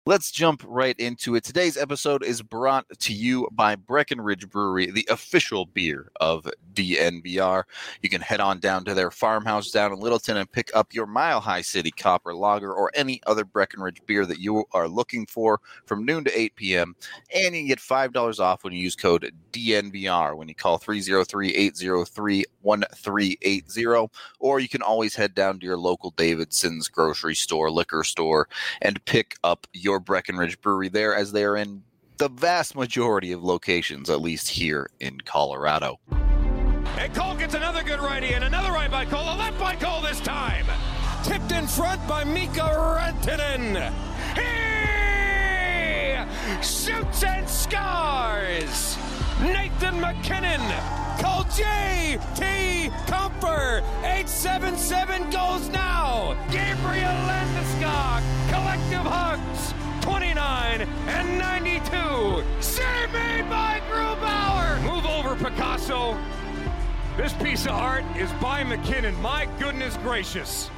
Let's jump right into it. Today's episode is brought to you by Breckenridge Brewery, the official beer of DNVR. You can head on down to their farmhouse down in Littleton and pick up your Mile High City Copper Lager or any other Breckenridge beer that you are looking for from noon to 8 p.m. And you can get $5 off when you use code DNVR when you call 303-803-1380. Or you can always head down to your local Davidson's grocery store, liquor store, and pick up your Breckenridge Brewery there, as they are in the vast majority of locations, at least here in Colorado. And Cole gets another good righty, and another right by Cole, a left by Cole this time. Tipped in front by Mika Rantanen. He shoots and scores. Nathan MacKinnon. Cole J.T. Comfer. 877 goes now. Gabriel Landeskog. Collective hugs. 29 and 92. Save made by Grubauer. Move over, Picasso. This piece of art is by McKinnon. My goodness gracious.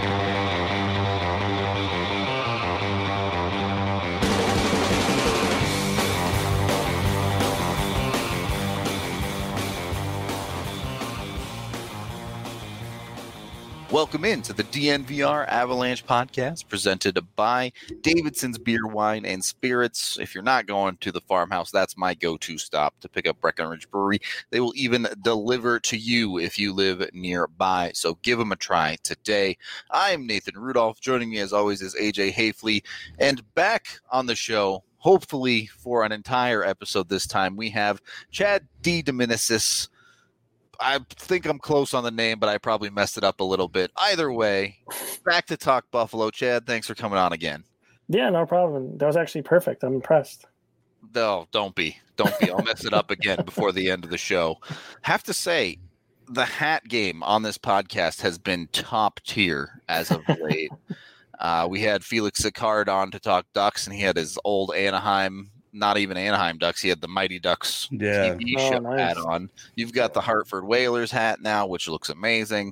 Welcome into the DNVR Avalanche podcast presented by Davidson's Beer, Wine, and Spirits. If you're not going to the farmhouse, that's my go-to stop to pick up Breckenridge Brewery. They will even deliver to you if you live nearby, so give them a try today. I am Nathan Rudolph. Joining me as always is AJ Hafley, and back on the show, hopefully for an entire episode this time, we have Chad D. Dominicis. I think I'm close on the name, but I probably messed it up a little bit. Either way, back to talk Buffalo. Chad, thanks for coming on again. Yeah, no problem. That was actually perfect. I'm impressed. No, don't be. I'll mess it up again before the end of the show. Have to say, the hat game on this podcast has been top tier as of late. We had Felix Sicard on to talk Ducks, and he had his old Anaheim, not even Anaheim Ducks. He had the Mighty Ducks TV show hat on. You've got the Hartford Whalers hat now, which looks amazing.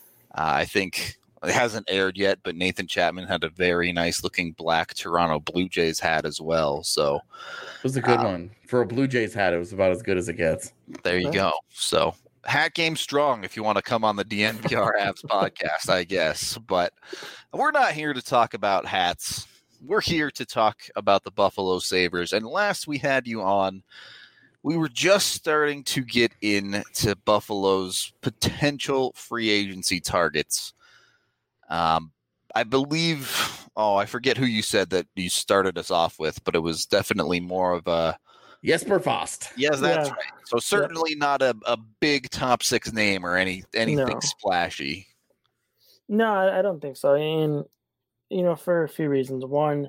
I think it hasn't aired yet, but Nathan Chapman had a very nice looking black Toronto Blue Jays hat as well. So it was a good one. For a Blue Jays hat, it was about as good as it gets. There you go. So hat game strong if you want to come on the DNVR Avs podcast, I guess. But we're not here to talk about hats. We're here to talk about the Buffalo Sabres. And last we had you on, we were just starting to get into Buffalo's potential free agency targets. I believe, I forget who you said that you started us off with, but it was definitely more of a Jesper Fast. Yes, that's right. So certainly not a big top six name or anything splashy. No, I don't think so. And for a few reasons. One,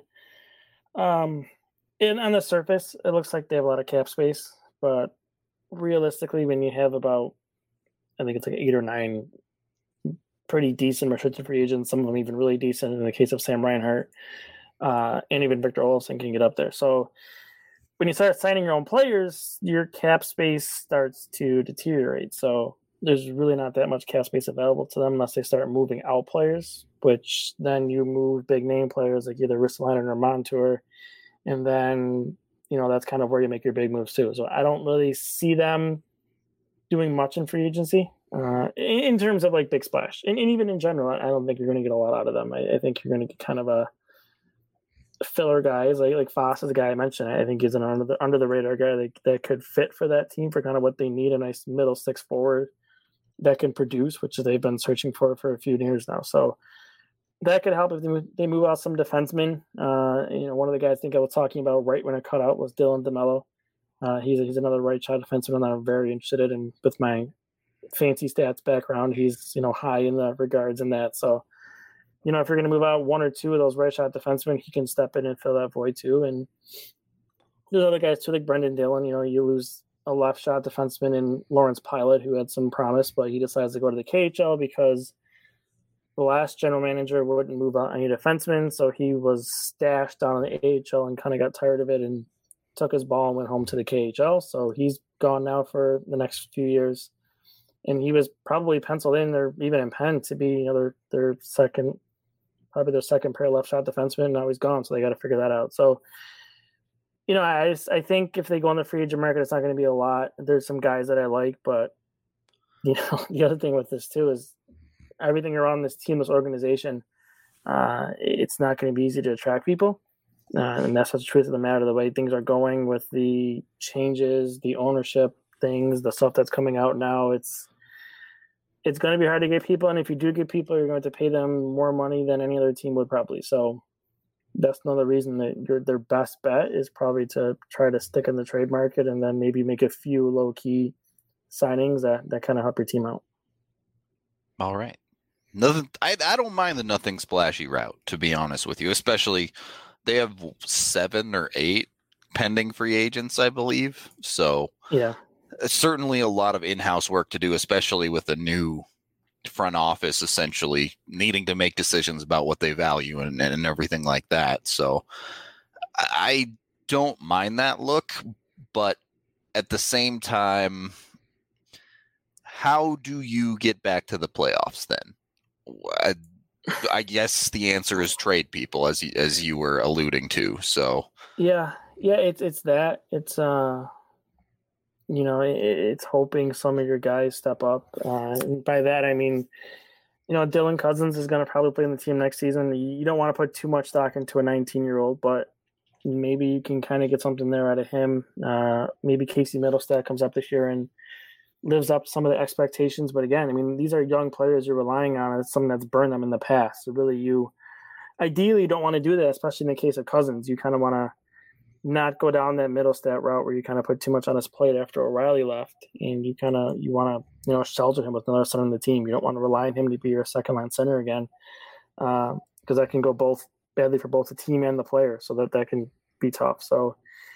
on the surface, it looks like they have a lot of cap space, but realistically, when you have about, I think it's like 8 or 9 pretty decent restricted free agents, some of them even really decent in the case of Sam Reinhart, and even Victor Olofsson can get up there. So when you start signing your own players, your cap space starts to deteriorate. So there's really not that much cap space available to them unless they start moving out players, which then you move big name players like either Ristolainen or Montour, and then that's kind of where you make your big moves too. So I don't really see them doing much in free agency in terms of like big splash, and even in general, I don't think you're going to get a lot out of them. I think you're going to get kind of a filler guys like Foss is a guy I mentioned. I think he's an under the radar guy that could fit for that team for kind of what they need, a nice middle six forward that can produce, which they've been searching for a few years now. So that could help if they move out some defensemen. One of the guys I think I was talking about right when I cut out was Dylan DeMello. He's another right shot defenseman that I'm very interested in. With my fancy stats background, he's high in the regards in that. So if you're going to move out 1 or 2 of those right shot defensemen, he can step in and fill that void too. And there's other guys too, like Brendan Dillon. You lose a left shot defenseman in Lawrence Pilot, who had some promise, but he decides to go to the KHL because the last general manager wouldn't move out any defensemen. So he was stashed down in the AHL and kind of got tired of it and took his ball and went home to the KHL. So he's gone now for the next few years. And he was probably penciled in or even in Penn to be their second probably their second pair left shot defenseman. Now he's gone, so they got to figure that out. So, I think if they go on the free agent market, it's not going to be a lot. There's some guys that I like, but the other thing with this too is everything around this team, this organization. It's not going to be easy to attract people. And that's the truth of the matter. The way things are going with the changes, the ownership things, the stuff that's coming out now, it's going to be hard to get people. And if you do get people, you're going to pay them more money than any other team would probably. So that's another reason that their best bet is probably to try to stick in the trade market and then maybe make a few low-key signings that kind of help your team out. All right. Nothing. I don't mind the nothing splashy route, to be honest with you. Especially, they have 7 or 8 pending free agents, I believe. So yeah, certainly a lot of in-house work to do, especially with the new front office essentially needing to make decisions about what they value and everything like that. So I don't mind that look, but at the same time, how do you get back to the playoffs then? I guess the answer is trade people, as you were alluding to. So yeah, it's that. It's it's hoping some of your guys step up. And by that I mean, Dylan Cousins is going to probably play in the team next season. You don't want to put too much stock into a 19-year-old, but maybe you can kind of get something there out of him. Maybe Casey Middlestat comes up this year and lives up to some of the expectations. But again, I mean, these are young players you're relying on. It's something that's burned them in the past. So really, you ideally don't want to do that, especially in the case of Cousins. You kind of want to not go down that Middlestat route where you kind of put too much on his plate after O'Reilly left, and you want to shelter him with another center on the team. You don't want to rely on him to be your second line center again, because that can go both badly for both the team and the player. So that can be tough. So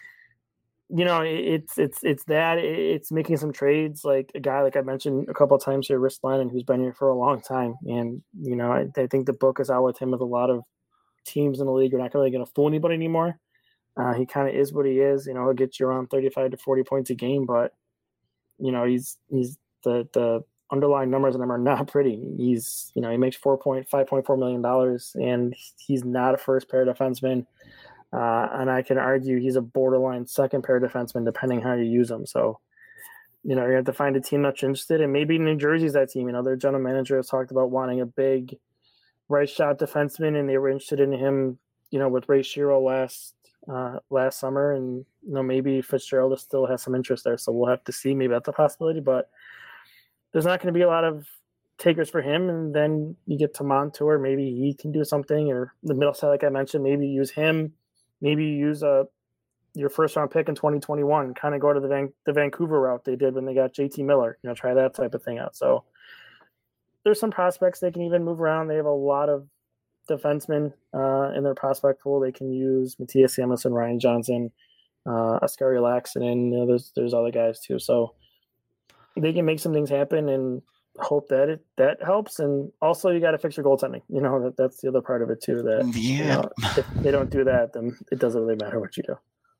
it's that it's making some trades, like a guy like I mentioned a couple of times here, Ristolainen, who's been here for a long time, and I think the book is out with him with a lot of teams in the league. You're not really going to fool anybody anymore. He kind of is what he is. He'll get you around 35 to 40 points a game, but he's the underlying numbers on him are not pretty. He's he makes $5.4 million, and he's not a first pair defenseman. And I can argue he's a borderline second pair defenseman, depending how you use him. So, you're going to have to find a team that's interested, and maybe New Jersey's that team. Their general manager has talked about wanting a big right shot defenseman, and they were interested in him, with Ray Shero last summer, and maybe Fitzgerald still has some interest there. So we'll have to see. Maybe that's a possibility, but there's not going to be a lot of takers for him. And then you get to Montour, maybe he can do something, or the middle side, like I mentioned, maybe use him. Maybe use your first round pick in 2021, kind of go to the Vancouver route they did when they got JT Miller, try that type of thing out. So there's some prospects they can even move around. They have a lot of defensemen in their prospect pool. They can use Matthias Samuelsson, Ryan Johnson, Oskari Laaksonen, and there's other guys too. So they can make some things happen and hope that that helps. And also you got to fix your goaltending. That's the other part of it too, that if they don't do that, then it doesn't really matter what you do.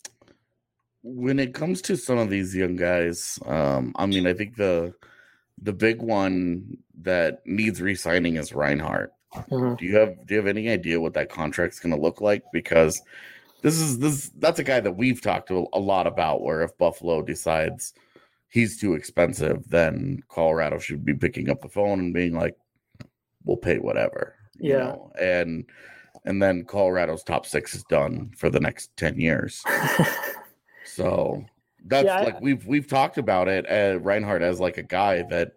When it comes to some of these young guys, I think the big one that needs re-signing is Reinhart. Mm-hmm. Do you have any idea what that contract's going to look like? Because that's a guy that we've talked to a lot about, where if Buffalo decides he's too expensive, then Colorado should be picking up the phone and being like, we'll pay whatever. And then Colorado's top 6 is done for the next 10 years. So that's we've talked about it, Reinhart as like a guy that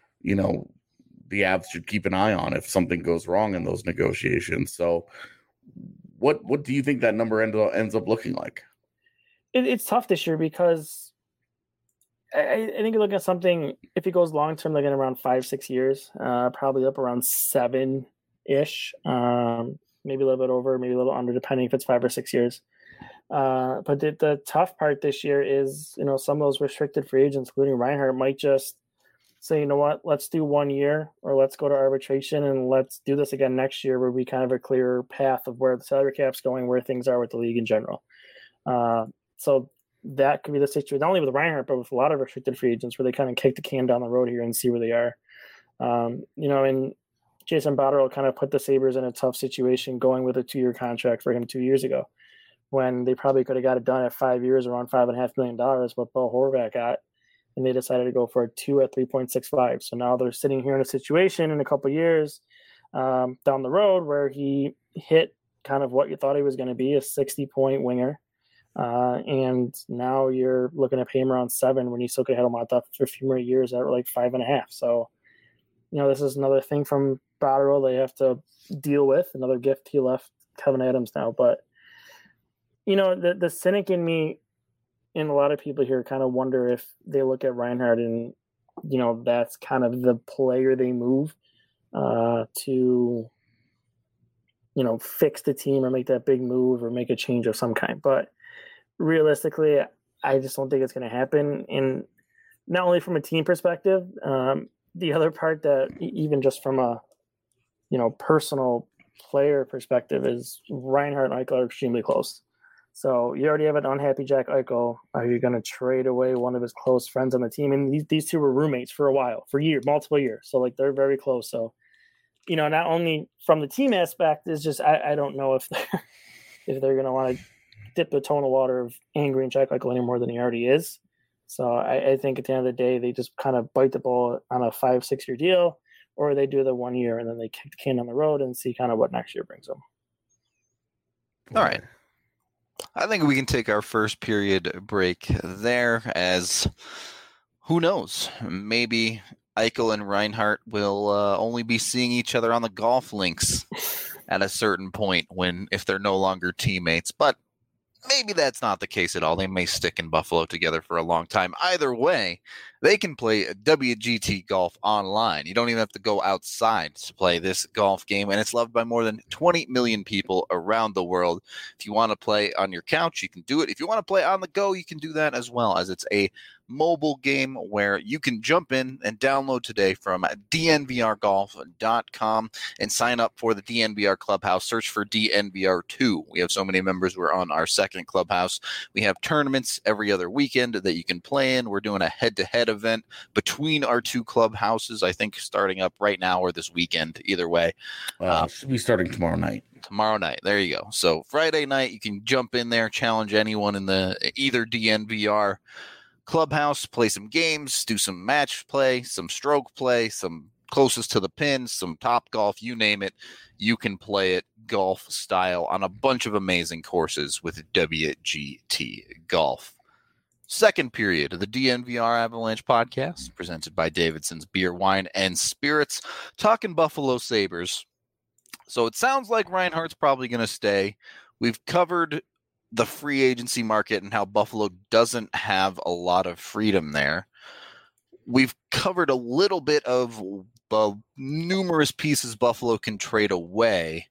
the Avs should keep an eye on if something goes wrong in those negotiations. So what do you think that number ends up looking like? It's tough this year because I think you're looking at something, if he goes long term, looking around 5-6 years, probably up around 7-ish, maybe a little bit over, maybe a little under, depending if it's 5 or 6 years. But the tough part this year is, some of those restricted free agents, including Reinhart, might just say, you know what, let's do 1 year, or let's go to arbitration and let's do this again next year, where we kind of have a clearer path of where the salary cap's going, where things are with the league in general. So that could be the situation, not only with Reinhart, but with a lot of restricted free agents, where they kind of kick the can down the road here and see where they are. And Jason Botterill kind of put the Sabres in a tough situation going with a 2-year contract for him 2 years ago, when they probably could have got it done at 5 years, around $5.5 million, what Bo Horvat got, and they decided to go for a 2 at 3.65. So now they're sitting here in a situation in a couple of years down the road where he hit kind of what you thought he was going to be, a 60-point winger. And now you're looking at pay him around 7 when you still could have him on top for a few more years at like 5.5. So, this is another thing from Botterill they have to deal with, another gift he left Kevin Adams now. But, the cynic in me and a lot of people here kind of wonder if they look at Reinhart and, that's kind of the player they move to, fix the team or make that big move or make a change of some kind. But realistically, I just don't think it's going to happen. And not only from a team perspective, the other part that even just from a, personal player perspective is Reinhart and Eichel are extremely close. So you already have an unhappy Jack Eichel. Are you going to trade away one of his close friends on the team? And these two were roommates for a while, for years, multiple years. So they're very close. So, not only from the team aspect, is just I don't know if they're going to want to dip the toe in the water of angering Jack Eichel any more than he already is. So I think at the end of the day, they just kind of bite the bullet on a 5-6 year deal, or they do the 1 year and then they kick the can on the road and see kind of what next year brings them. All right. I think we can take our first period break there, as who knows, maybe Eichel and Reinhart will only be seeing each other on the golf links at a certain point if they're no longer teammates. But maybe that's not the case at all. They may stick in Buffalo together for a long time. Either way, they can play WGT Golf online. You don't even have to go outside to play this golf game, and it's loved by more than 20 million people around the world. If you want to play on your couch, you can do it. If you want to play on the go, you can do that as well, as it's a mobile game where you can jump in and download today from dnvrgolf.com and sign up for the DNVR Clubhouse. Search for DNVR2. We have so many members. We're on our second clubhouse. We have tournaments every other weekend that you can play in. We're doing a head-to-head event between our two clubhouses, I think starting up right now or this weekend, either way. Should be starting tomorrow night. Tomorrow night. There you go. So Friday night, you can jump in there, challenge anyone in the either DNVR clubhouse, play some games, do some match play, some stroke play, some closest to the pin, some top golf, you name it. You can play it golf style on a bunch of amazing courses with WGT Golf. Second period of the DNVR Avalanche podcast, presented by Davidson's Beer, Wine, and Spirits, talking Buffalo Sabres. So it sounds like Reinhart's probably going to stay. We've covered the free agency market and how Buffalo doesn't have a lot of freedom there. We've covered a little bit of the numerous pieces Buffalo can trade away.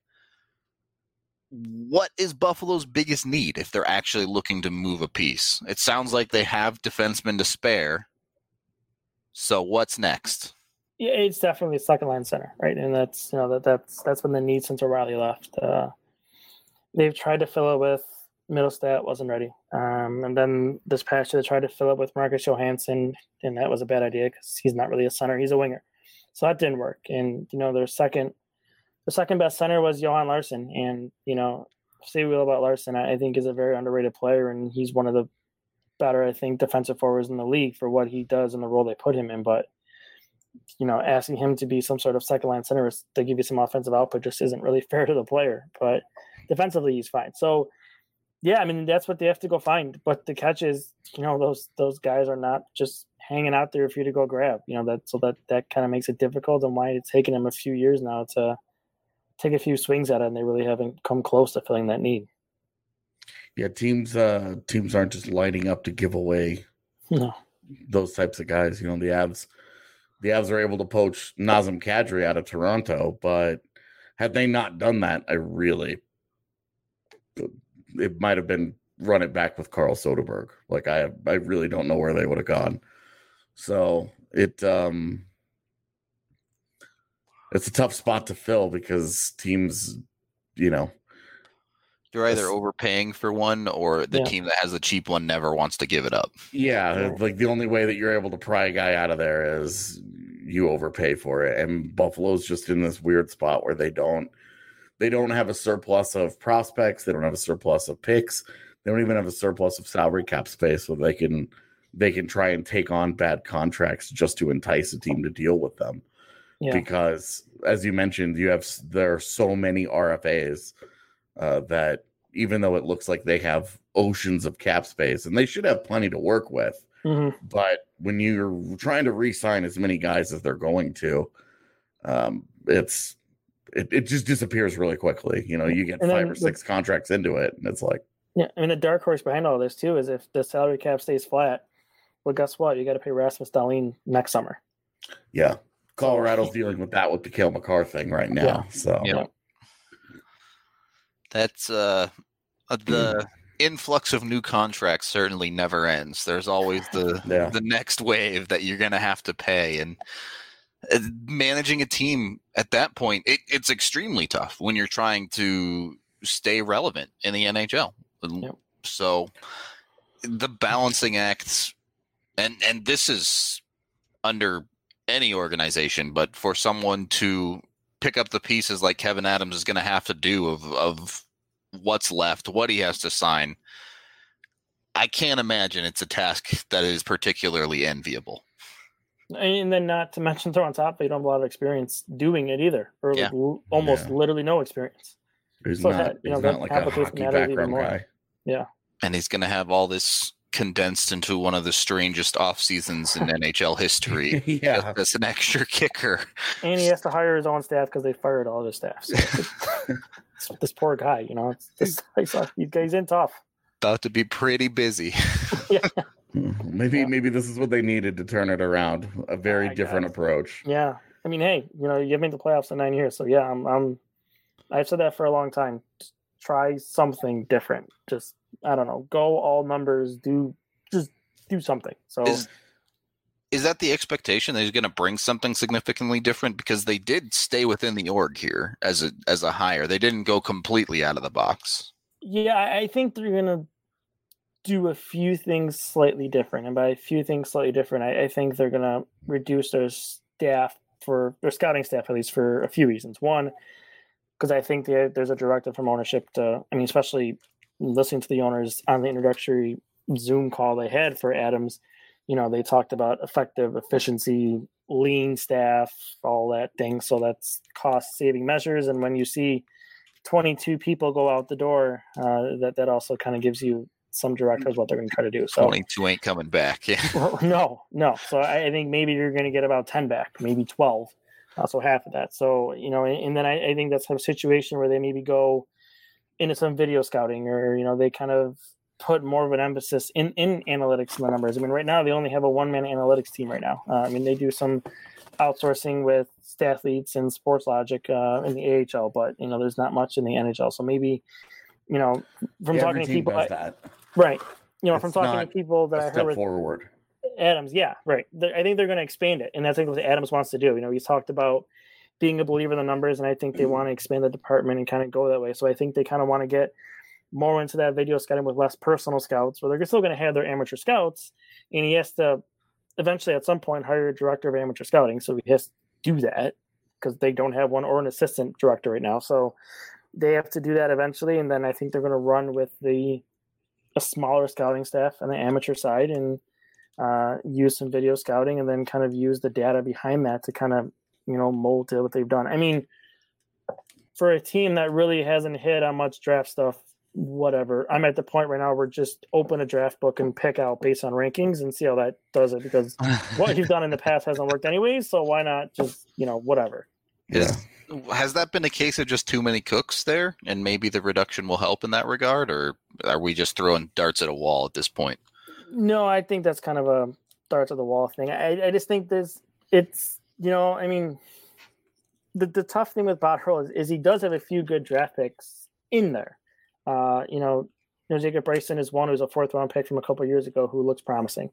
What is Buffalo's biggest need if they're actually looking to move a piece? It sounds like they have defensemen to spare. So what's next? Yeah, it's definitely second line center, right? And that's that's been the need since O'Reilly left. They've tried to fill it with Middlestat, wasn't ready. And then this past year, they tried to fill it with Marcus Johansson, and that was a bad idea because he's not really a center; he's a winger. So that didn't work. And their second best center was Johan Larsson. And say we will about Larsson, I think is a very underrated player, and he's one of the better, I think, defensive forwards in the league for what he does and the role they put him in. But asking him to be some sort of second line center to give you some offensive output just isn't really fair to the player. But defensively, he's fine. So. Yeah, I mean, that's what they have to go find. But the catch is, those guys are not just hanging out there for you to go grab. That kind of makes it difficult, and why it's taken them a few years now to take a few swings at it, and they really haven't come close to filling that need. Yeah, teams aren't just lining up to give away those types of guys. The Avs are able to poach Nazem Kadri out of Toronto, but had they not done that, it might have been run it back with Carl Soderberg. Like I really don't know where they would have gone. So it's a tough spot to fill because teams, they're either overpaying for one or the team that has the cheap one never wants to give it up. Yeah, like the only way that you're able to pry a guy out of there is you overpay for it. And Buffalo's just in this weird spot where they don't have a surplus of prospects. They don't have a surplus of picks. They don't even have a surplus of salary cap space, so they can try and take on bad contracts just to entice a team to deal with them. Yeah. Because, as you mentioned, there are so many RFAs that even though it looks like they have oceans of cap space, and they should have plenty to work with, but when you're trying to re-sign as many guys as they're going to, it just disappears really quickly. You get 5 or 6 contracts into it, and it's like, yeah. I mean, the dark horse behind all this too is if the salary cap stays flat, well, guess what? You got to pay Rasmus Dahlin next summer. Yeah, Colorado's dealing with that with the Cale Makar thing right now. Yeah. So that's the influx of new contracts certainly never ends. There's always the next wave that you're going to have to pay, and managing a team at that point, it's extremely tough when you're trying to stay relevant in the NHL. Yep. So the balancing acts, and this is under any organization, but for someone to pick up the pieces like Kevyn Adams is going to have to do of what's left, what he has to sign, I can't imagine it's a task that is particularly enviable. And then not to mention, throw on top, they don't have a lot of experience doing it either, or almost literally no experience. He's not like a hockey background guy. Yeah. And he's going to have all this condensed into one of the strangest off seasons in NHL history. Yeah. As an extra kicker. And he has to hire his own staff because they fired all their staff. So this poor guy, he's in tough. About to be pretty busy. Yeah. Maybe this is what they needed to turn it around. A very different approach. Yeah. I mean, hey, you've made the playoffs in 9 years. So yeah, I've said that for a long time. Just try something different. Just, I don't know, go all numbers, do something. So is that the expectation that he's going to bring something significantly different? Because they did stay within the org here as a hire. They didn't go completely out of the box. Yeah, I think they're going to do a few things slightly different. And by a few things slightly different, I think they're going to reduce their staff, for their scouting staff, at least, for a few reasons. One, because I think there's a directive from ownership especially listening to the owners on the introductory Zoom call they had for Adams, they talked about effective efficiency, lean staff, all that thing. So that's cost saving measures. And when you see 22 people go out the door, that also kind of gives you some directives what they're going to try to do. So 22 ain't coming back. Yeah. No. So I think maybe you're going to get about 10 back, maybe 12. So half of that. So, and then I think that's a situation where they maybe go into some video scouting, or, they kind of put more of an emphasis in analytics and the numbers. I mean, right now they only have a one-man analytics team right now. They do some outsourcing with Stathletes and Sports Logic in the AHL, but, there's not much in the NHL. So maybe, from talking to people, right. From talking to people that I heard with forward. Adams, yeah, right. I think they're going to expand it, and that's what Adams wants to do. He's talked about being a believer in the numbers, and I think they want to expand the department and kind of go that way. So I think they kind of want to get more into that video scouting with less personal scouts, where they're still going to have their amateur scouts, and he has to eventually at some point hire a director of amateur scouting. So he has to do that because they don't have one, or an assistant director right now. So they have to do that eventually, and then I think they're going to run with a smaller scouting staff on the amateur side and use some video scouting, and then kind of use the data behind that to kind of, mold to what they've done. I mean, for a team that really hasn't hit on much draft stuff, whatever, I'm at the point right now where just open a draft book and pick out based on rankings and see how that does it, because what you've done in the past hasn't worked anyways. So why not just, whatever. Has that been a case of just too many cooks there, and maybe the reduction will help in that regard, or are we just throwing darts at a wall at this point? No, I think that's kind of a darts at the wall thing. I just think it's the tough thing with Botterill is he does have a few good draft picks in there. Jacob Bryson is one who's a 4th round pick from a couple of years ago who looks promising.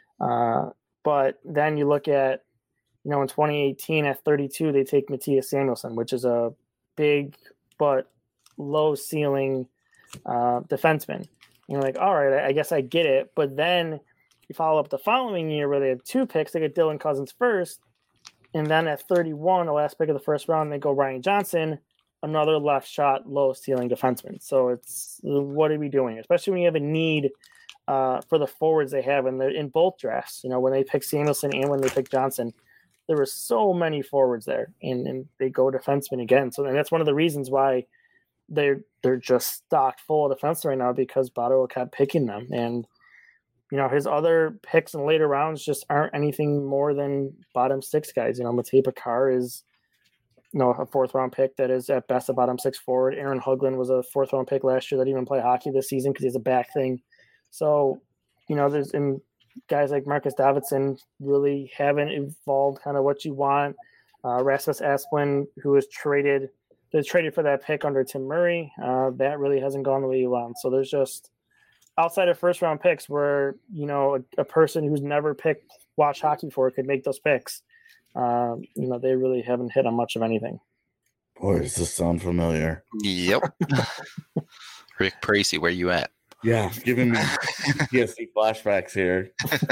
But then you look at, in 2018 at 32, they take Matthias Samuelsson, which is a big but low ceiling defenseman. You're like, all right, I guess I get it. But then you follow up the following year where they have 2 picks. They get Dylan Cousins first, And then at 31, the last pick of the first round, they go Ryan Johnson, another left shot, low ceiling defenseman. So it's, what are we doing? Especially when you have a need for the forwards they have in both drafts. You know, when they pick Samuelson and when they pick Johnson, there were so many forwards there, and they go defenseman again. So and that's one of the reasons why they're just stocked full of defensemen right now, because Ottawa kept picking them. And you know, his other picks in later rounds just aren't anything more than bottom six guys. You know, Matej Pekar is, you know, a fourth round pick that is at best a bottom six forward. Aaron Hoagland was a fourth round pick last year that didn't even play hockey this season because he has a back thing. So, you know, there's in guys like Marcus Davidson really haven't evolved kind of what you want. Rasmus Asplund, who was traded for that pick under Tim Murray, that really hasn't gone the way you want. So there's just, outside of first round picks where, you know, a person who's never watched hockey before could make those picks, you know, they really haven't hit on much of anything. Boy, does this sound familiar? Yep. Rick Pracy, where you at? Yeah, giving me PTSD flashbacks here.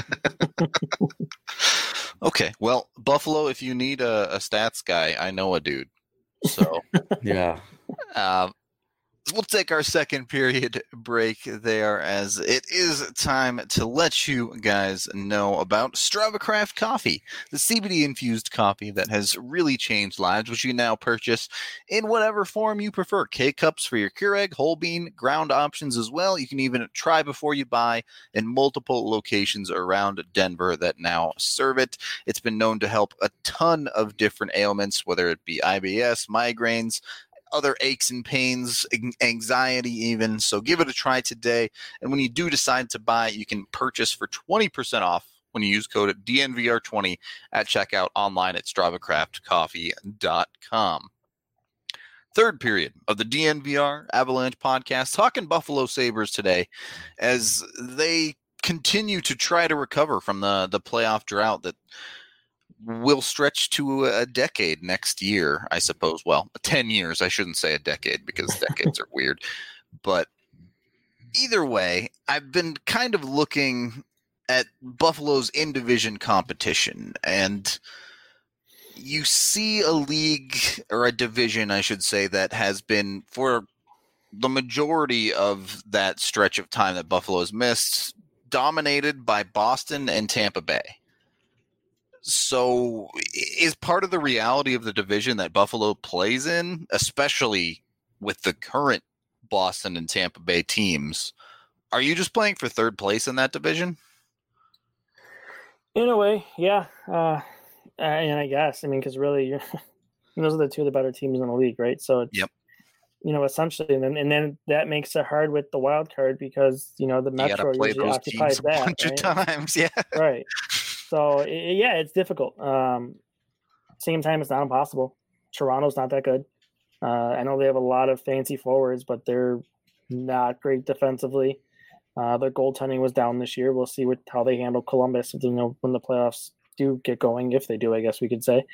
Okay, well, Buffalo, if you need a stats guy, I know a dude. So, yeah. We'll take our second period break there, as it is time to let you guys know about StravaCraft Coffee, the CBD-infused coffee that has really changed lives, which you can now purchase in whatever form you prefer. K-Cups for your Keurig, whole bean, ground options as well. You can even try before you buy in multiple locations around Denver that now serve it. It's been known to help a ton of different ailments, whether it be IBS, migraines, other aches and pains, anxiety even. So give it a try today. And when you do decide to buy, you can purchase for 20% off when you use code DNVR20 at checkout online at StravaCraftCoffee.com. Third period of the DNVR Avalanche podcast, talking Buffalo Sabres today as they continue to try to recover from the playoff drought that will stretch to a decade next year, I suppose. Well, 10 years. I shouldn't say a decade because decades are weird. But either way, I've been kind of looking at Buffalo's in-division competition, and you see a league, or a division, I should say, that has been, for the majority of that stretch of time that Buffalo has missed, dominated by Boston and Tampa Bay. So is part of the reality of the division that Buffalo plays in, especially with the current Boston and Tampa Bay teams, are you just playing for third place in that division? In a way, yeah. And I guess, I mean, because really, those are the two of the better teams in the league, right? So it's, yep. You know, essentially, and then that makes it hard with the wild card because, you know, the Metro usually occupies that. A bunch of times, yeah. Right. So, yeah, it's difficult. Same time, it's not impossible. Toronto's not that good. I know they have a lot of fancy forwards, but they're not great defensively. Their goaltending was down this year. We'll see how they handle Columbus, you know, when the playoffs do get going, if they do, I guess we could say.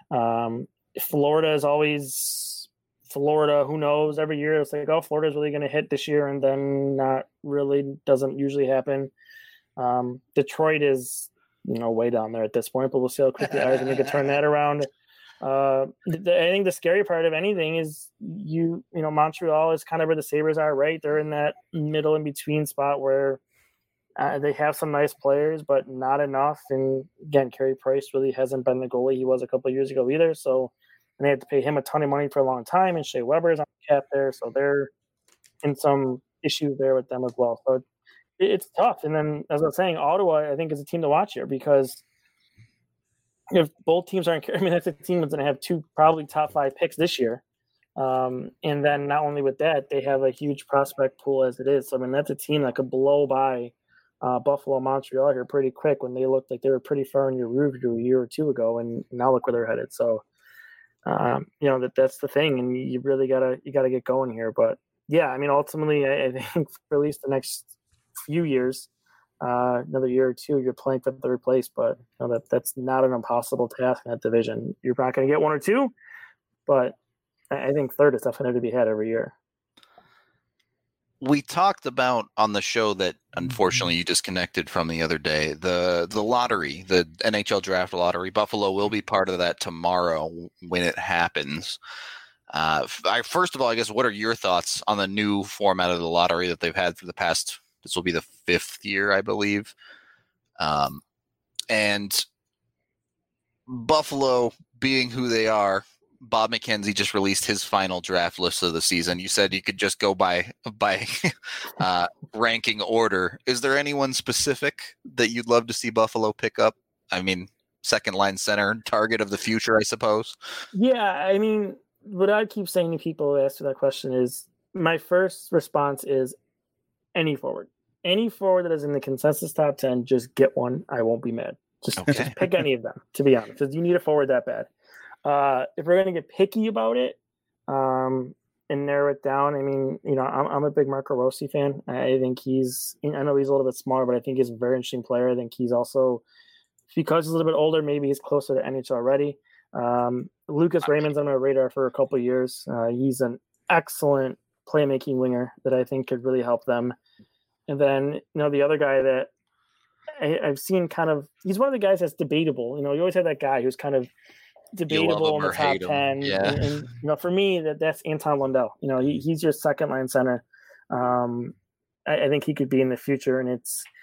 Florida is always Florida. Who knows? Every year it's like, oh, Florida's really going to hit this year, and then not really. Doesn't usually happen. Detroit is, you know, way down there at this point, but we'll see how quickly Eisenman can turn that around. I think the scary part of anything is you know, Montreal is kind of where the Sabres are, right? They're in that middle in between spot where they have some nice players, but not enough. And again, Carey Price really hasn't been the goalie he was a couple of years ago either. So, and they had to pay him a ton of money for a long time, and Shea Weber's on the cap there. So they're in some issues there with them as well. So it's tough. And then, as I was saying, Ottawa, I think, is a team to watch here because if both teams aren't, I mean, that's a team that's going to have two probably top 5 picks this year. And then not only with that, they have a huge prospect pool as it is. So, I mean, that's a team that could blow by Buffalo, Montreal here pretty quick when they looked like they were pretty far in your rearview a year or two ago, and now look where they're headed. So, you know, that's the thing, and you really gotta get going here. But yeah, I mean, ultimately, I think for at least the next few years, another year or two, you're playing for third place. But you know, that's not an impossible task in that division. You're not going to get one or two, but I think third is definitely to be had every year. we talked about on the show that unfortunately you disconnected from the other day, the lottery, the NHL draft lottery. Buffalo will be part of that tomorrow when it happens. First of all, I guess, what are your thoughts on the new format of the lottery that they've had for the past, this will be the 5th year, I believe. And Buffalo being who they are, Bob McKenzie just released his final draft list of the season. You said you could just go by ranking order. Is there anyone specific that you'd love to see Buffalo pick up? I mean, second line center, target of the future, I suppose. Yeah, I mean, what I keep saying to people who ask that question is, my first response is any forward. Any forward that is in the consensus top 10, just get one. I won't be mad. Just pick any of them, to be honest, because you need a forward that bad. If we're going to get picky about it and narrow it down, I mean, I'm a big Marco Rossi fan. I think I know he's a little bit smaller, but I think he's a very interesting player. I think he's also, because he's a little bit older, maybe he's closer to NHL ready. Lucas Raymond's on my radar for a couple of years. He's an excellent playmaking winger that I think could really help them. And then, the other guy that I've seen he's one of the guys that's debatable. You always have that guy who's kind of debatable in the top 10. Yeah. And for me, that's Anton Lundell. He's your second line center. I think he could be in the future. And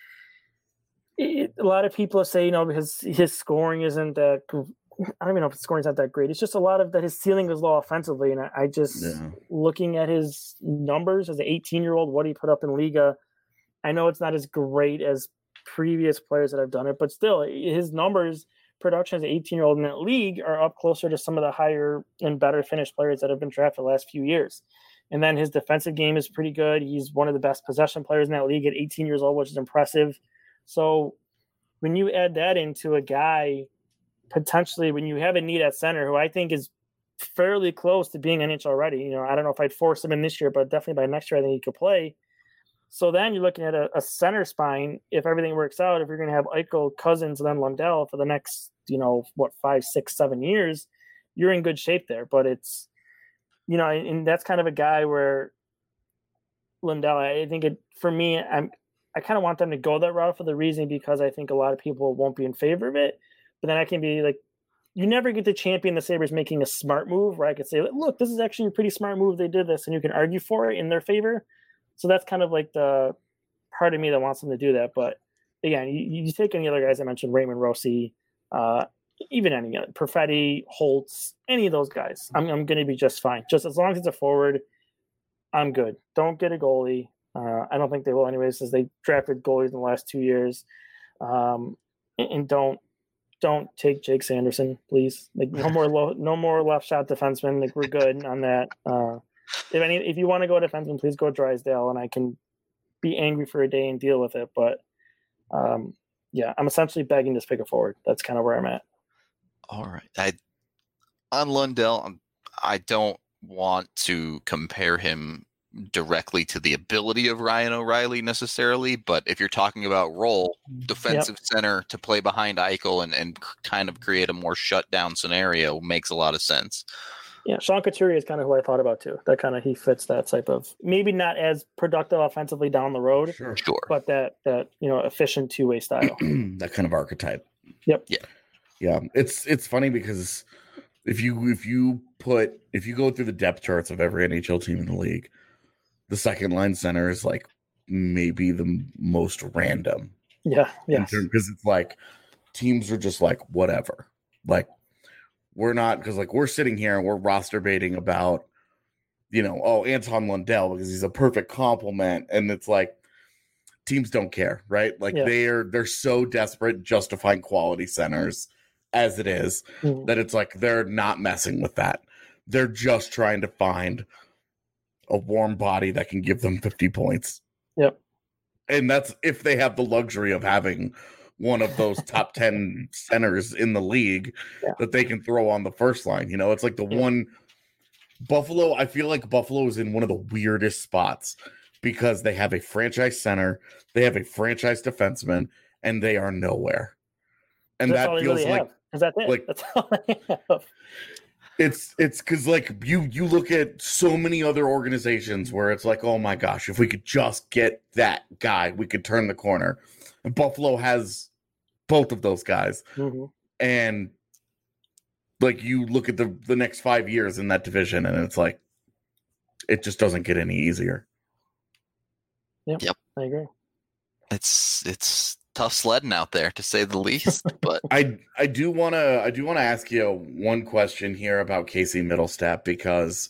a lot of people say, because his scoring isn't that, I don't even know if his scoring's not that great. It's just a lot of that his ceiling is low offensively. And I just, looking at his numbers as an 18-year-old, what he put up in Liga, I know it's not as great as previous players that have done it, but still his numbers, production as an 18-year-old in that league, are up closer to some of the higher and better finished players that have been drafted the last few years. And then his defensive game is pretty good. He's one of the best possession players in that league at 18 years old, which is impressive. So when you add that into a guy, potentially when you have a need at center, who I think is fairly close to being NHL ready, I don't know if I'd force him in this year, but definitely by next year, I think he could play. So then you're looking at a center spine. If everything works out, if you're going to have Eichel, Cousins, and then Lundell for the next, 5, 6, 7 years, you're in good shape there. But it's, and that's kind of a guy where Lundell, I think for me, I kind of want them to go that route for the reason because I think a lot of people won't be in favor of it. But then I can be like, you never get to champion the Sabres making a smart move where I could say, look, this is actually a pretty smart move. They did this, and you can argue for it in their favor. So that's kind of like the part of me that wants them to do that. But again, you take any other guys I mentioned, Raymond, Rossi, even any other, Perfetti, Holtz, any of those guys, I'm going to be just fine. Just as long as it's a forward, I'm good. Don't get a goalie. I don't think they will anyways, since they drafted goalies in the last 2 years. And don't take Jake Sanderson, please. Like no more left shot defensemen. Like we're good on that. If you want to go defenseman, please go Drysdale, and I can be angry for a day and deal with it. But I'm essentially begging to pick a forward. That's kind of where I'm at. All right. On Lundell, I don't want to compare him directly to the ability of Ryan O'Reilly necessarily, but if you're talking about role, defensive center to play behind Eichel and kind of create a more shutdown scenario makes a lot of sense. Yeah, Sean Couturier is kind of who I thought about too. That kind of, he fits that type of, maybe not as productive offensively down the road, sure, but that efficient two-way style. That kind of archetype. Yep. Yeah. It's funny because if you go through the depth charts of every NHL team in the league, the second line center is like maybe the most random. Yeah. Because it's like teams are just like whatever. Like we're not, because like we're sitting here and we're roster baiting about, Anton Lundell because he's a perfect complement, and it's like teams don't care, right? Like they're so desperate just to find quality centers as it is that it's like they're not messing with that. They're just trying to find a warm body that can give them 50 points. Yep. And that's if they have the luxury of having one of those top 10 centers in the league that they can throw on the first line. It's like the one Buffalo. I feel like Buffalo is in one of the weirdest spots because they have a franchise center, they have a franchise defenseman, and they are nowhere. And that's that feels really like, is that it? Like, that's all they have. It's because like you look at so many other organizations where it's like, oh my gosh, if we could just get that guy, we could turn the corner. And Buffalo has both of those guys. Mm-hmm. And like you look at the next 5 years in that division, and it's like it just doesn't get any easier. Yep. I agree. It's tough sledding out there, to say the least. But I do want to ask you one question here about Casey Middlestat, because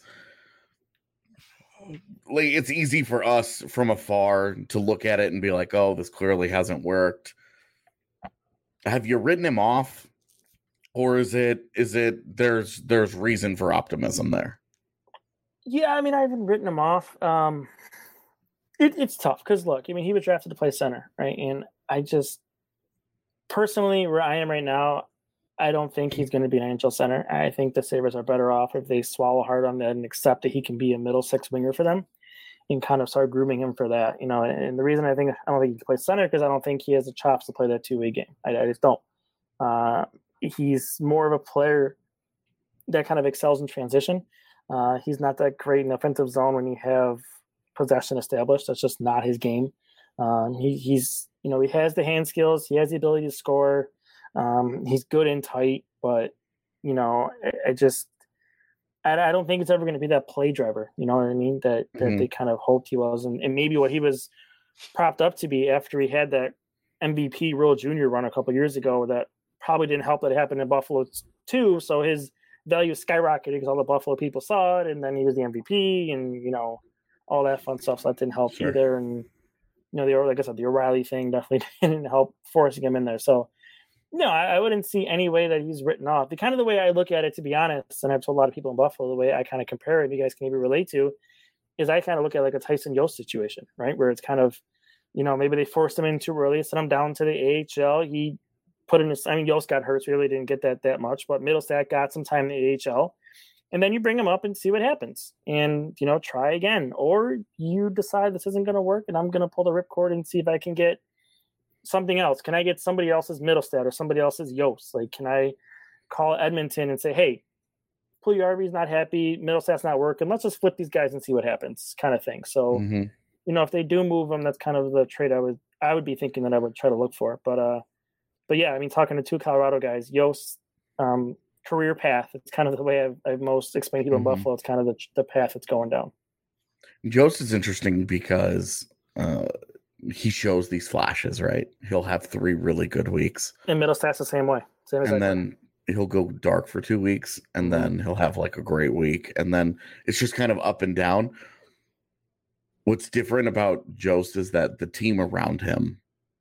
like it's easy for us from afar to look at it and be like, oh, this clearly hasn't worked. Have you written him off, or is it there's reason for optimism there? Yeah, I mean, I haven't written him off. It's tough because look, I mean, he was drafted to play center, right? And I just personally, where I am right now, I don't think he's going to be an NHL center. I think the Sabres are better off if they swallow hard on that and accept that he can be a middle six winger for them, and kind of start grooming him for that. You know, and the reason I don't think he can play center because I don't think he has the chops to play that two-way game. I just don't. He's more of a player that kind of excels in transition. He's not that great in the offensive zone when you have possession established. That's just not his game. He's he has the hand skills. He has the ability to score. He's good and tight, but I don't think it's ever going to be that play driver. You know what I mean? That they kind of hoped he was, and maybe what he was propped up to be after he had that MVP World Junior run a couple years ago. That probably didn't help that it happened in Buffalo too. So his value skyrocketed because all the Buffalo people saw it, and then he was the MVP, and all that fun stuff. So that didn't help either. And like I said, the O'Reilly thing definitely didn't help forcing him in there. So no, I wouldn't see any way that he's written off. The kind of the way I look at it, to be honest, and I've told a lot of people in Buffalo, the way I kind of compare it, you guys can maybe relate to, is I kind of look at like a Tyson Jost situation, right? Where it's kind of, maybe they forced him in too early, sent him down to the AHL. He put in Jost got hurt, so he really didn't get that much, but Middlestat got some time in the AHL. And then you bring him up and see what happens and, try again. Or you decide this isn't going to work and I'm going to pull the ripcord and see if I can get something else. Can I get somebody else's Middlestat or somebody else's Jost? Like, can I call Edmonton and say, hey, Puljujarvi's not happy, Middlestat's not working, let's just flip these guys and see what happens, kind of thing. So, if they do move them, that's kind of the trade I would be thinking that I would try to look for. But yeah, I mean, talking to two Colorado guys, Jost, career path, it's kind of the way I've most explained people in Buffalo. It's kind of the path it's going down. Jost is interesting because he shows these flashes, right? He'll have 3 really good weeks. And Middlestat's the same way. And then he'll go dark for 2 weeks, and then he'll have like a great week. And then it's just kind of up and down. What's different about Jost is that the team around him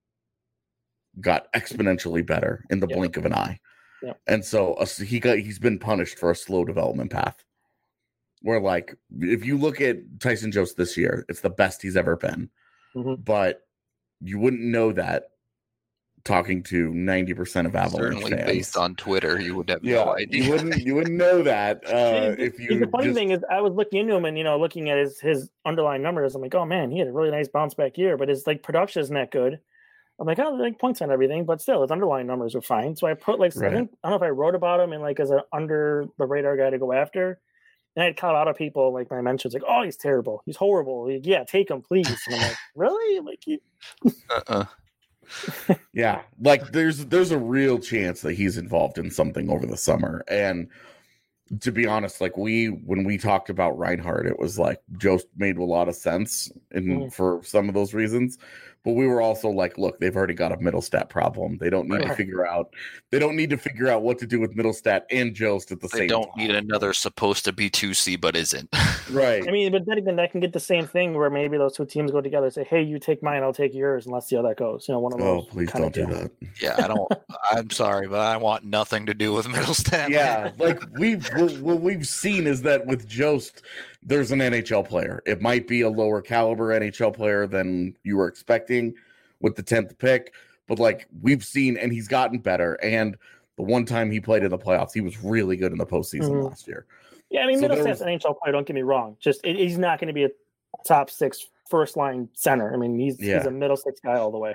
got exponentially better in the blink of an eye. Yeah. And so he's been punished for a slow development path. Where like if you look at Tyson Jost this year, it's the best he's ever been. But you wouldn't know that talking to 90% of Avalanche certainly fans. Based on Twitter, you would have no idea. You wouldn't know that if you. The funny thing is, I was looking into him and looking at his underlying numbers. I'm like, oh man, he had a really nice bounce back year, but his like production isn't that good. I'm like, oh, like points on everything, but still, his underlying numbers are fine. So I put I don't know if I wrote about him and like as an under the radar guy to go after. And I had Colorado people like my mentions like, oh, he's terrible, he's horrible. Like, yeah, take him, please. And I'm like, really? Like, yeah, like there's a real chance that he's involved in something over the summer. And to be honest, like when we talked about Reinhart, it was like Jost made a lot of sense for some of those reasons. But we were also like, look, they've already got a Middlestat problem. They don't need to figure out what to do with Middlestat and Jost at the same time. They don't need another supposed to be 2C but isn't. Right. I mean, but then again, that can get the same thing where maybe those two teams go together and say, hey, you take mine, I'll take yours, and let's see how that goes. One of those. Oh, please don't do that. Yeah, I'm sorry, but I want nothing to do with Middlestat. Yeah, like what we've seen is that with Jost, there's an NHL player. It might be a lower caliber NHL player than you were expecting with the 10th pick, but like we've seen, and he's gotten better. And the one time he played in the playoffs, he was really good in the postseason last year. Yeah, I mean, Middlestat's an NHL player. Don't get me wrong. Just he's not going to be a top 6 first line center. I mean, he's a middle 6 guy all the way.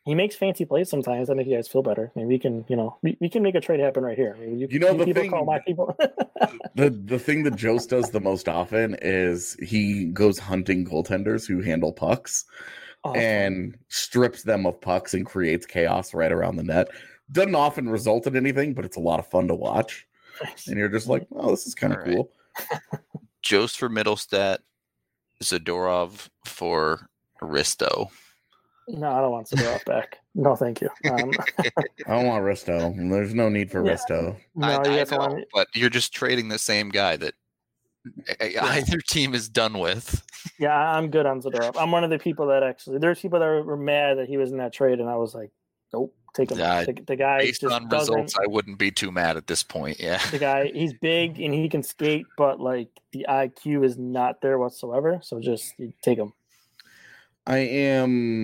he makes fancy plays sometimes. I make you guys feel better. Maybe we can, we can make a trade happen right here. I mean, the people thing, call my people. the thing that Jost does the most often is he goes hunting goaltenders who handle pucks and strips them of pucks and creates chaos right around the net. Doesn't often result in anything, but it's a lot of fun to watch. And you're just like, oh, this is kind of cool. Jost for Middlestat, Zadorov for Risto. No, I don't want Zadorov back. No, thank you. I don't want Risto. There's no need for Risto. No, I know, but you're just trading the same guy that either team is done with. Yeah, I'm good on Zadorov. I'm one of the people that there's people that were mad that he was in that trade, and I was like, nope, take him. The guy based on results, I wouldn't be too mad at this point. Yeah, the guy, he's big and he can skate, but like the IQ is not there whatsoever. So just take him. They're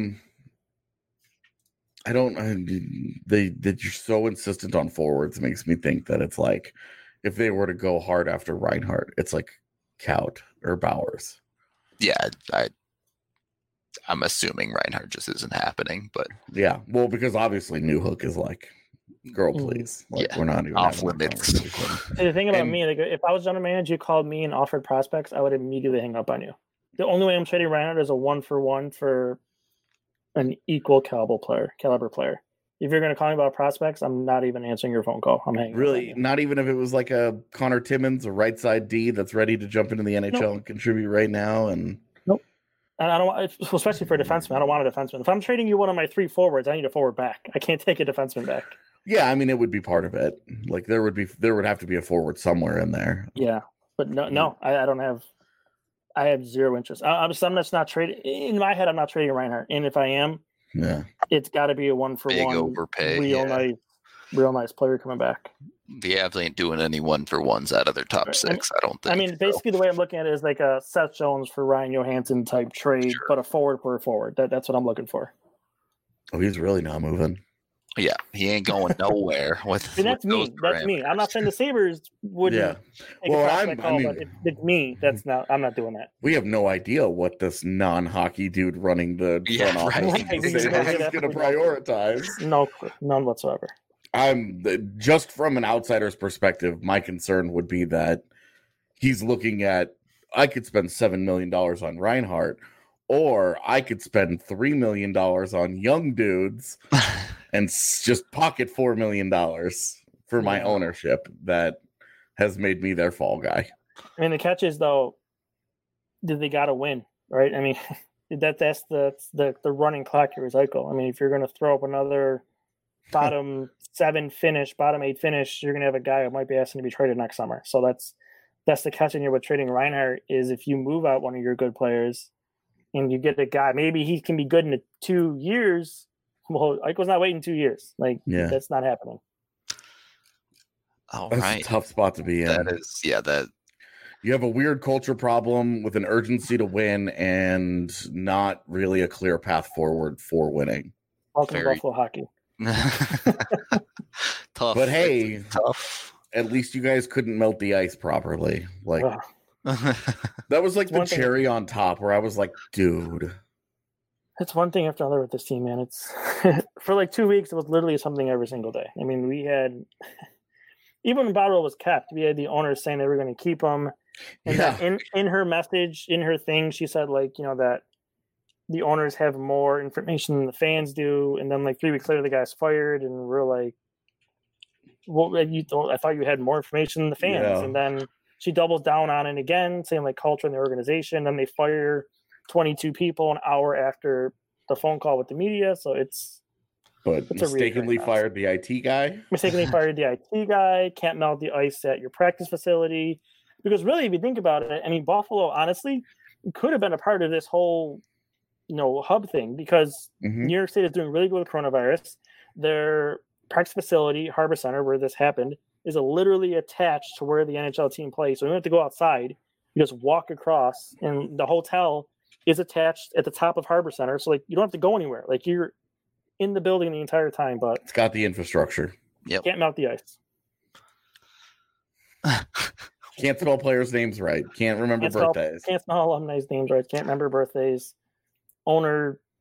so insistent on forwards. It makes me think that it's like if they were to go hard after Reinhart, it's like Kaut or Bowers. Yeah, I'm assuming Reinhart just isn't happening, but yeah, well, because obviously Newhook is like, girl, please, like we're not even off limits. The thing about me, like, if I was general manager, you called me and offered prospects, I would immediately hang up on you. The only way I'm trading Reinhart is a 1-for-1 for an equal caliber player. If you're going to call me about prospects, I'm not even answering your phone call. I'm hanging. Really, not even if it was like a Connor Timmins, a right side D that's ready to jump into the NHL and contribute right now. And nope. And I don't want, especially for a defenseman. I don't want a defenseman. If I'm trading you one of my 3 forwards, I need a forward back. I can't take a defenseman back. Yeah, I mean, it would be part of it. Like there would have to be a forward somewhere in there. Yeah, but no, I don't have. I have zero interest. I'm just not trading. In my head, I'm not trading Reinhart. And if I am, it's got to be a 1-for-1 overpay. Real nice player coming back. The Avs ain't doing any 1-for-1s out of their top 6. I don't think. I mean, basically, the way I'm looking at it is like a Seth Jones for Ryan Johansson type trade, but a forward for a forward. That's what I'm looking for. Oh, he's really not moving. Yeah, he ain't going nowhere. That's me. That's me. I'm not saying the Sabres wouldn't. Yeah. Well, but it's me. I'm not doing that. We have no idea what this non-hockey dude running the front office is going to prioritize. No, none whatsoever. Just from an outsider's perspective, my concern would be that he's looking at, I could spend $7 million on Reinhart, or I could spend $3 million on young dudes and just pocket $4 million for my ownership that has made me their fall guy. I mean, the catch is, though, they got to win, right? I mean, that's the running clock here is Eichel. I mean, if you're going to throw up another bottom 8 finish, you're going to have a guy who might be asking to be traded next summer. So that's the catch in here with trading Reinhart is if you move out one of your good players and you get a guy, maybe he can be good in 2 years. Well, Eichel's not waiting 2 years. That's not happening. All That's right. a tough spot to be in. That is, that you have a weird culture problem with an urgency to win and not really a clear path forward for winning. Welcome to Buffalo hockey. Tough. But hey, tough. At least you guys couldn't melt the ice properly. That was like the cherry on top where I was like, dude. It's one thing after another with this team, man. It's for like 2 weeks, it was literally something every single day. I mean, we had even when Botterill was kept, we had the owners saying they were going to keep him. And in her message, in her thing, she said that the owners have more information than the fans do. And then 3 weeks later, the guy's fired, and we're like, "Well, I thought you had more information than the fans." Yeah. And then she doubles down on it again, saying culture in the organization. Then they fire 22 people an hour after the phone call with the media. So it's mistakenly fired the IT guy. Mistakenly fired the IT guy. Can't melt the ice at your practice facility. Because really, if you think about it, I mean, Buffalo, honestly, could have been a part of this whole, hub thing because New York State is doing really good with coronavirus. Their practice facility, Harbor Center, where this happened, is literally attached to where the NHL team plays. So you don't have to go outside. You just walk across, and the hotel is attached at the top of Harbor Center. So, you don't have to go anywhere. You're in the building the entire time, but it's got the infrastructure. Yep. Can't melt the ice. Can't spell players' names right. Can't remember birthdays. Can't spell alumni's names right. Can't remember birthdays. Owner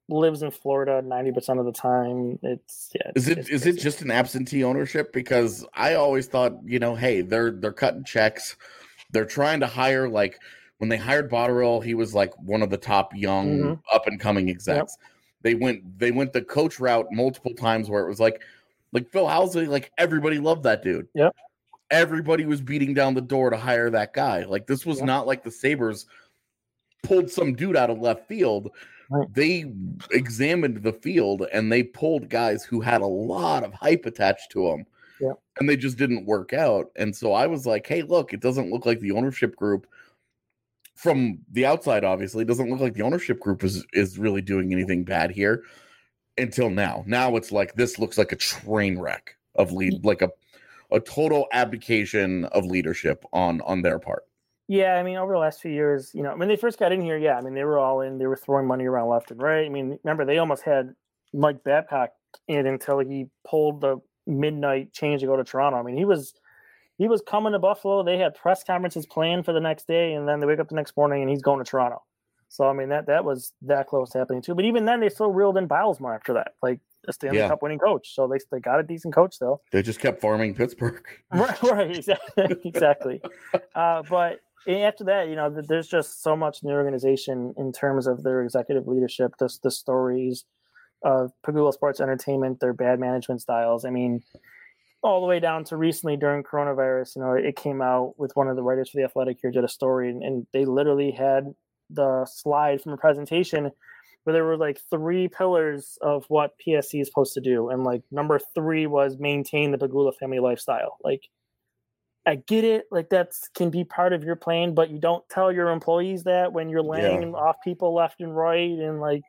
lives in Florida 90% of the time. Is it just an absentee ownership? Because I always thought, hey, they're cutting checks. They're trying to hire, like when they hired Botterill, he was like one of the top young up and coming execs. Yep. They went the coach route multiple times where it was like Phil Housley, like everybody loved that dude. Yep. Everybody was beating down the door to hire that guy. Like this was not like the Sabres pulled some dude out of left field. Right. They examined the field and they pulled guys who had a lot of hype attached to them. Yeah. And they just didn't work out. And so I was like, hey, look, it doesn't look like the ownership group from the outside, obviously, it doesn't look like the ownership group is really doing anything bad here until now. Now it's like, this looks like a train wreck of like a total abdication of leadership on their part. Yeah, I mean, over the last few years, when they first got in here, I mean, they were all in. They were throwing money around left and right. I mean, remember, they almost had Mike Babcock in until he pulled the midnight change to go to Toronto. I mean, he was coming to Buffalo. They had press conferences planned for the next day, and then they wake up the next morning and he's going to Toronto. So, I mean, that was that close to happening too. But even then, they still reeled in Bilesma after that, like a Stanley Cup winning coach. So they got a decent coach still. They just kept farming Pittsburgh. Right, exactly. But after that, there's just so much in the organization in terms of their executive leadership, the stories of Pegula Sports Entertainment, their bad management styles. I mean, all the way down to recently during coronavirus, it came out with one of the writers for The Athletic here did a story, and they literally had the slide from a presentation where there were like 3 pillars of what PSC is supposed to do. And like number 3 was maintain the Pegula family lifestyle. Like, I get it. Like that's can be part of your plan, but you don't tell your employees that when you're laying off people left and right. And like,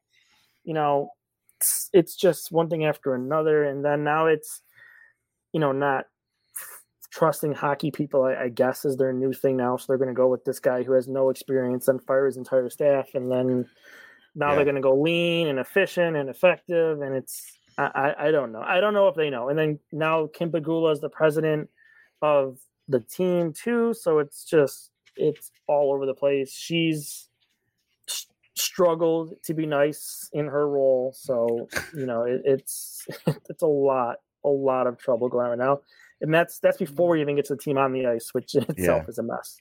it's just one thing after another. And then now it's, not trusting hockey people, I guess, is their new thing now. So they're going to go with this guy who has no experience and fire his entire staff. And then now they're going to go lean and efficient and effective. And it's, I don't know. I don't know if they know. And then now Kim Pegula is the president of the team too. So it's all over the place. She's struggled to be nice in her role. So, it's a lot of trouble going on right now. And that's before we even get to the team on the ice, which in itself is a mess.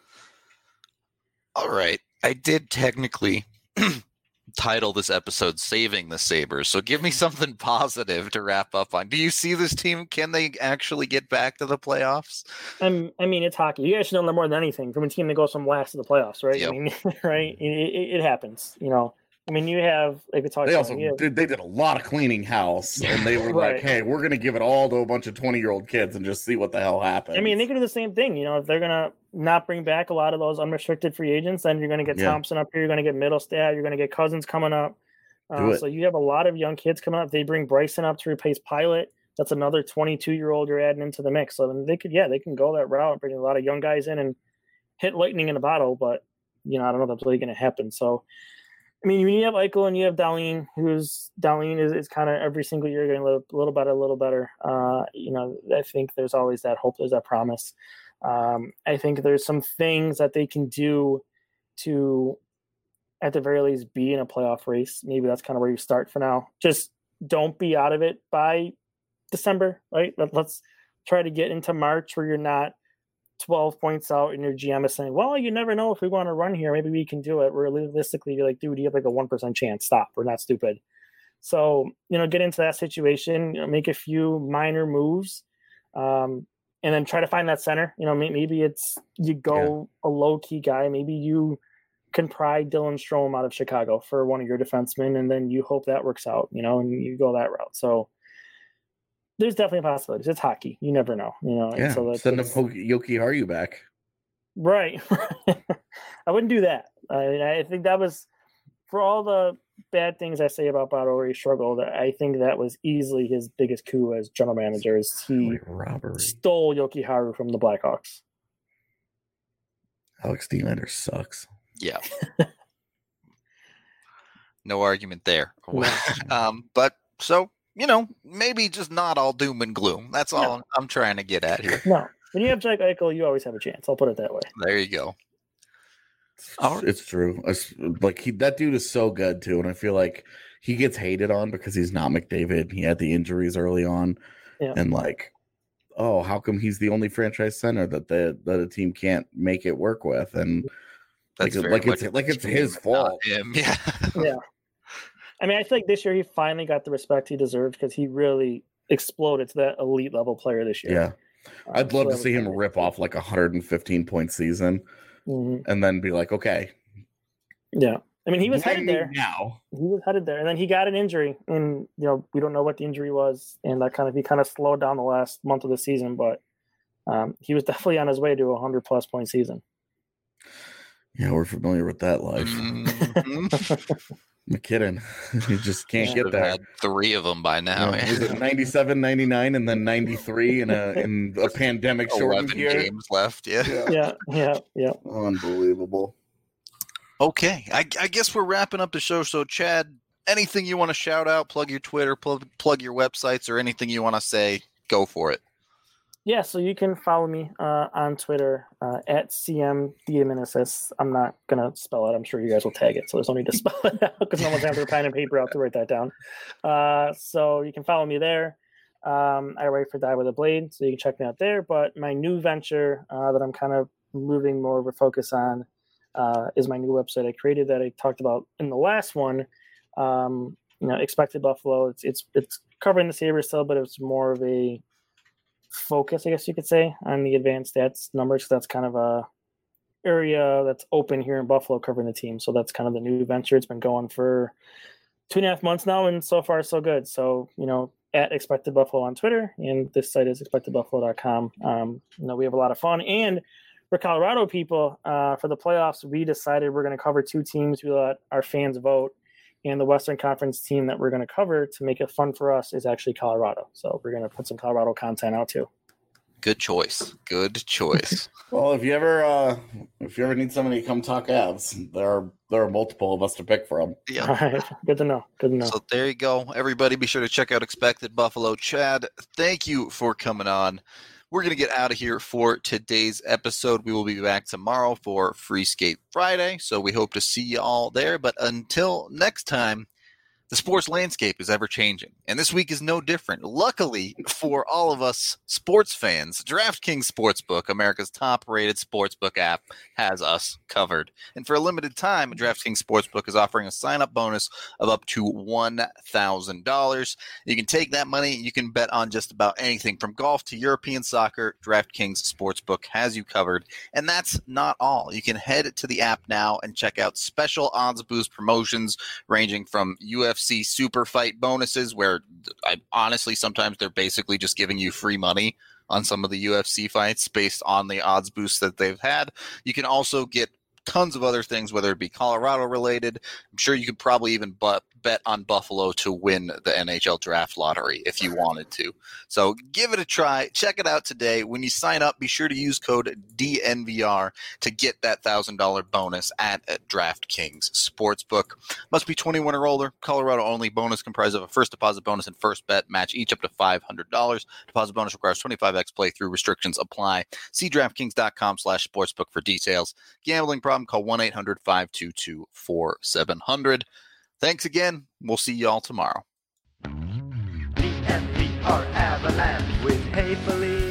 All right. I did technically title this episode Saving the Sabres. So give me something positive to wrap up on. Do you see this team? Can they actually get back to the playoffs? I mean, it's hockey. You guys should know that more than anything from a team that goes from last to the playoffs, right? Yep. I mean, right? It happens, I mean, you have like we talked. They did a lot of cleaning house, and they were like, "Hey, we're going to give it all to a bunch of 20-year-old kids and just see what the hell happens." I mean, they could do the same thing. If they're going to not bring back a lot of those unrestricted free agents, then you're going to get Thompson up here. You're going to get Middlestat. You're going to get Cousins coming up. So you have a lot of young kids coming up. They bring Bryson up to replace Pilot. That's another 22-year-old you're adding into the mix. So they can go that route and bring a lot of young guys in and hit lightning in a bottle. But I don't know if that's really going to happen. So. I mean, when you have Eichel and you have Dahlin, Dahlin is kind of every single year getting a little better. I think there's always that hope, there's that promise. I think there's some things that they can do to, at the very least, be in a playoff race. Maybe that's kind of where you start for now. Just don't be out of it by December, right? Let's try to get into March where you're not 12 points out and your GM is saying, well, you never know if we want to run here. Maybe we can do it. Realistically, you're like, dude, you have like a 1% chance. Stop. We're not stupid. So, get into that situation, make a few minor moves, and then try to find that center. Maybe it's you go a low-key guy. Maybe you can pry Dylan Strome out of Chicago for one of your defensemen, and then you hope that works out, and you go that route. So there's definitely possibilities. It's hockey. You never know. Yeah. So send Yoki Haru back. Right. I wouldn't do that. I think that was, for all the bad things I say about Botto where he struggled, I think that was easily his biggest coup as general manager. Is he stole Yoki Haru from the Blackhawks. Alex Nylander sucks. Yeah. No argument there. But so, maybe just not all doom and gloom. That's all I'm trying to get at here. No. When you have Jack Eichel, you always have a chance. I'll put it that way. There you go. It's true. That dude is so good, too. And I feel like he gets hated on because he's not McDavid. He had the injuries early on, and like, oh, how come he's the only franchise center that a team can't make it work with? And that's it's his fault. Him. Yeah. Yeah. I mean, I think this year he finally got the respect he deserved because he really exploded to that elite level player this year. Yeah. I'd love to see him rip off like a 115-point season and then be like, okay. Yeah. I mean, he was headed there. Now. He was headed there. And then he got an injury. And, we don't know what the injury was. And he kind of slowed down the last month of the season. But he was definitely on his way to a 100-plus point season. Yeah, we're familiar with that life. McKinnon. You just can't get there. Had 3 of them by now. Yeah. Was it 97, 99, and then 93 in a pandemic shortened year? 11 games left, Yeah. Unbelievable. Okay, I guess we're wrapping up the show. So, Chad, anything you want to shout out, plug your Twitter, plug your websites, or anything you want to say, go for it. Yeah, so you can follow me on Twitter at CMDiamensis. I'm not going to spell it. I'm sure you guys will tag it, so there's no need to spell it out because no one's having their pen and paper out to write that down. So you can follow me there. I write for Die With A Blade, so you can check me out there. But my new venture that I'm kind of moving more of a focus on is my new website I created that I talked about in the last one. Expected Buffalo. It's covering the Sabres still, but it's more of a focus, I guess you could say, on the advanced stats numbers. That's kind of a area that's open here in Buffalo covering the team. So that's kind of the new venture. It's been going for 2.5 months now, and so far so good. So, at Expected Buffalo on Twitter, and this site is expectedbuffalo.com. We have a lot of fun. And for Colorado people, for the playoffs, we decided we're going to cover 2 teams. We let our fans vote. And the Western Conference team that we're going to cover to make it fun for us is actually Colorado. So we're going to put some Colorado content out too. Good choice. Well, if you ever need somebody to come talk Avs, there are multiple of us to pick from. Yeah. All right. Good to know. So there you go. Everybody be sure to check out Expected Buffalo. Chad, thank you for coming on. We're going to get out of here for today's episode. We will be back tomorrow for Free Skate Friday, so we hope to see you all there. But until next time, the sports landscape is ever changing, and this week is no different. Luckily for all of us sports fans, DraftKings Sportsbook, America's top-rated sportsbook app, has us covered. And for a limited time, DraftKings Sportsbook is offering a sign-up bonus of up to $1,000. You can take that money, you can bet on just about anything from golf to European soccer. DraftKings Sportsbook has you covered. And that's not all. You can head to the app now and check out special odds boost promotions ranging from UFC super fight bonuses, where honestly sometimes they're basically just giving you free money on some of the UFC fights based on the odds boosts that they've had. You can also get tons of other things, whether it be Colorado related. I'm sure you could probably even bet on Buffalo to win the NHL draft lottery if you wanted to. So give it a try. Check it out today. When you sign up, be sure to use code DNVR to get that $1,000 bonus at DraftKings Sportsbook. Must be 21 or older. Colorado only. Bonus comprised of a first deposit bonus and first bet. Match each up to $500. Deposit bonus requires 25x playthrough. Restrictions apply. See DraftKings.com/sportsbook for details. Gambling problem? Call 1-800-522-4700. Thanks again. We'll see y'all tomorrow. DNVR Avalanche with Hey Felice.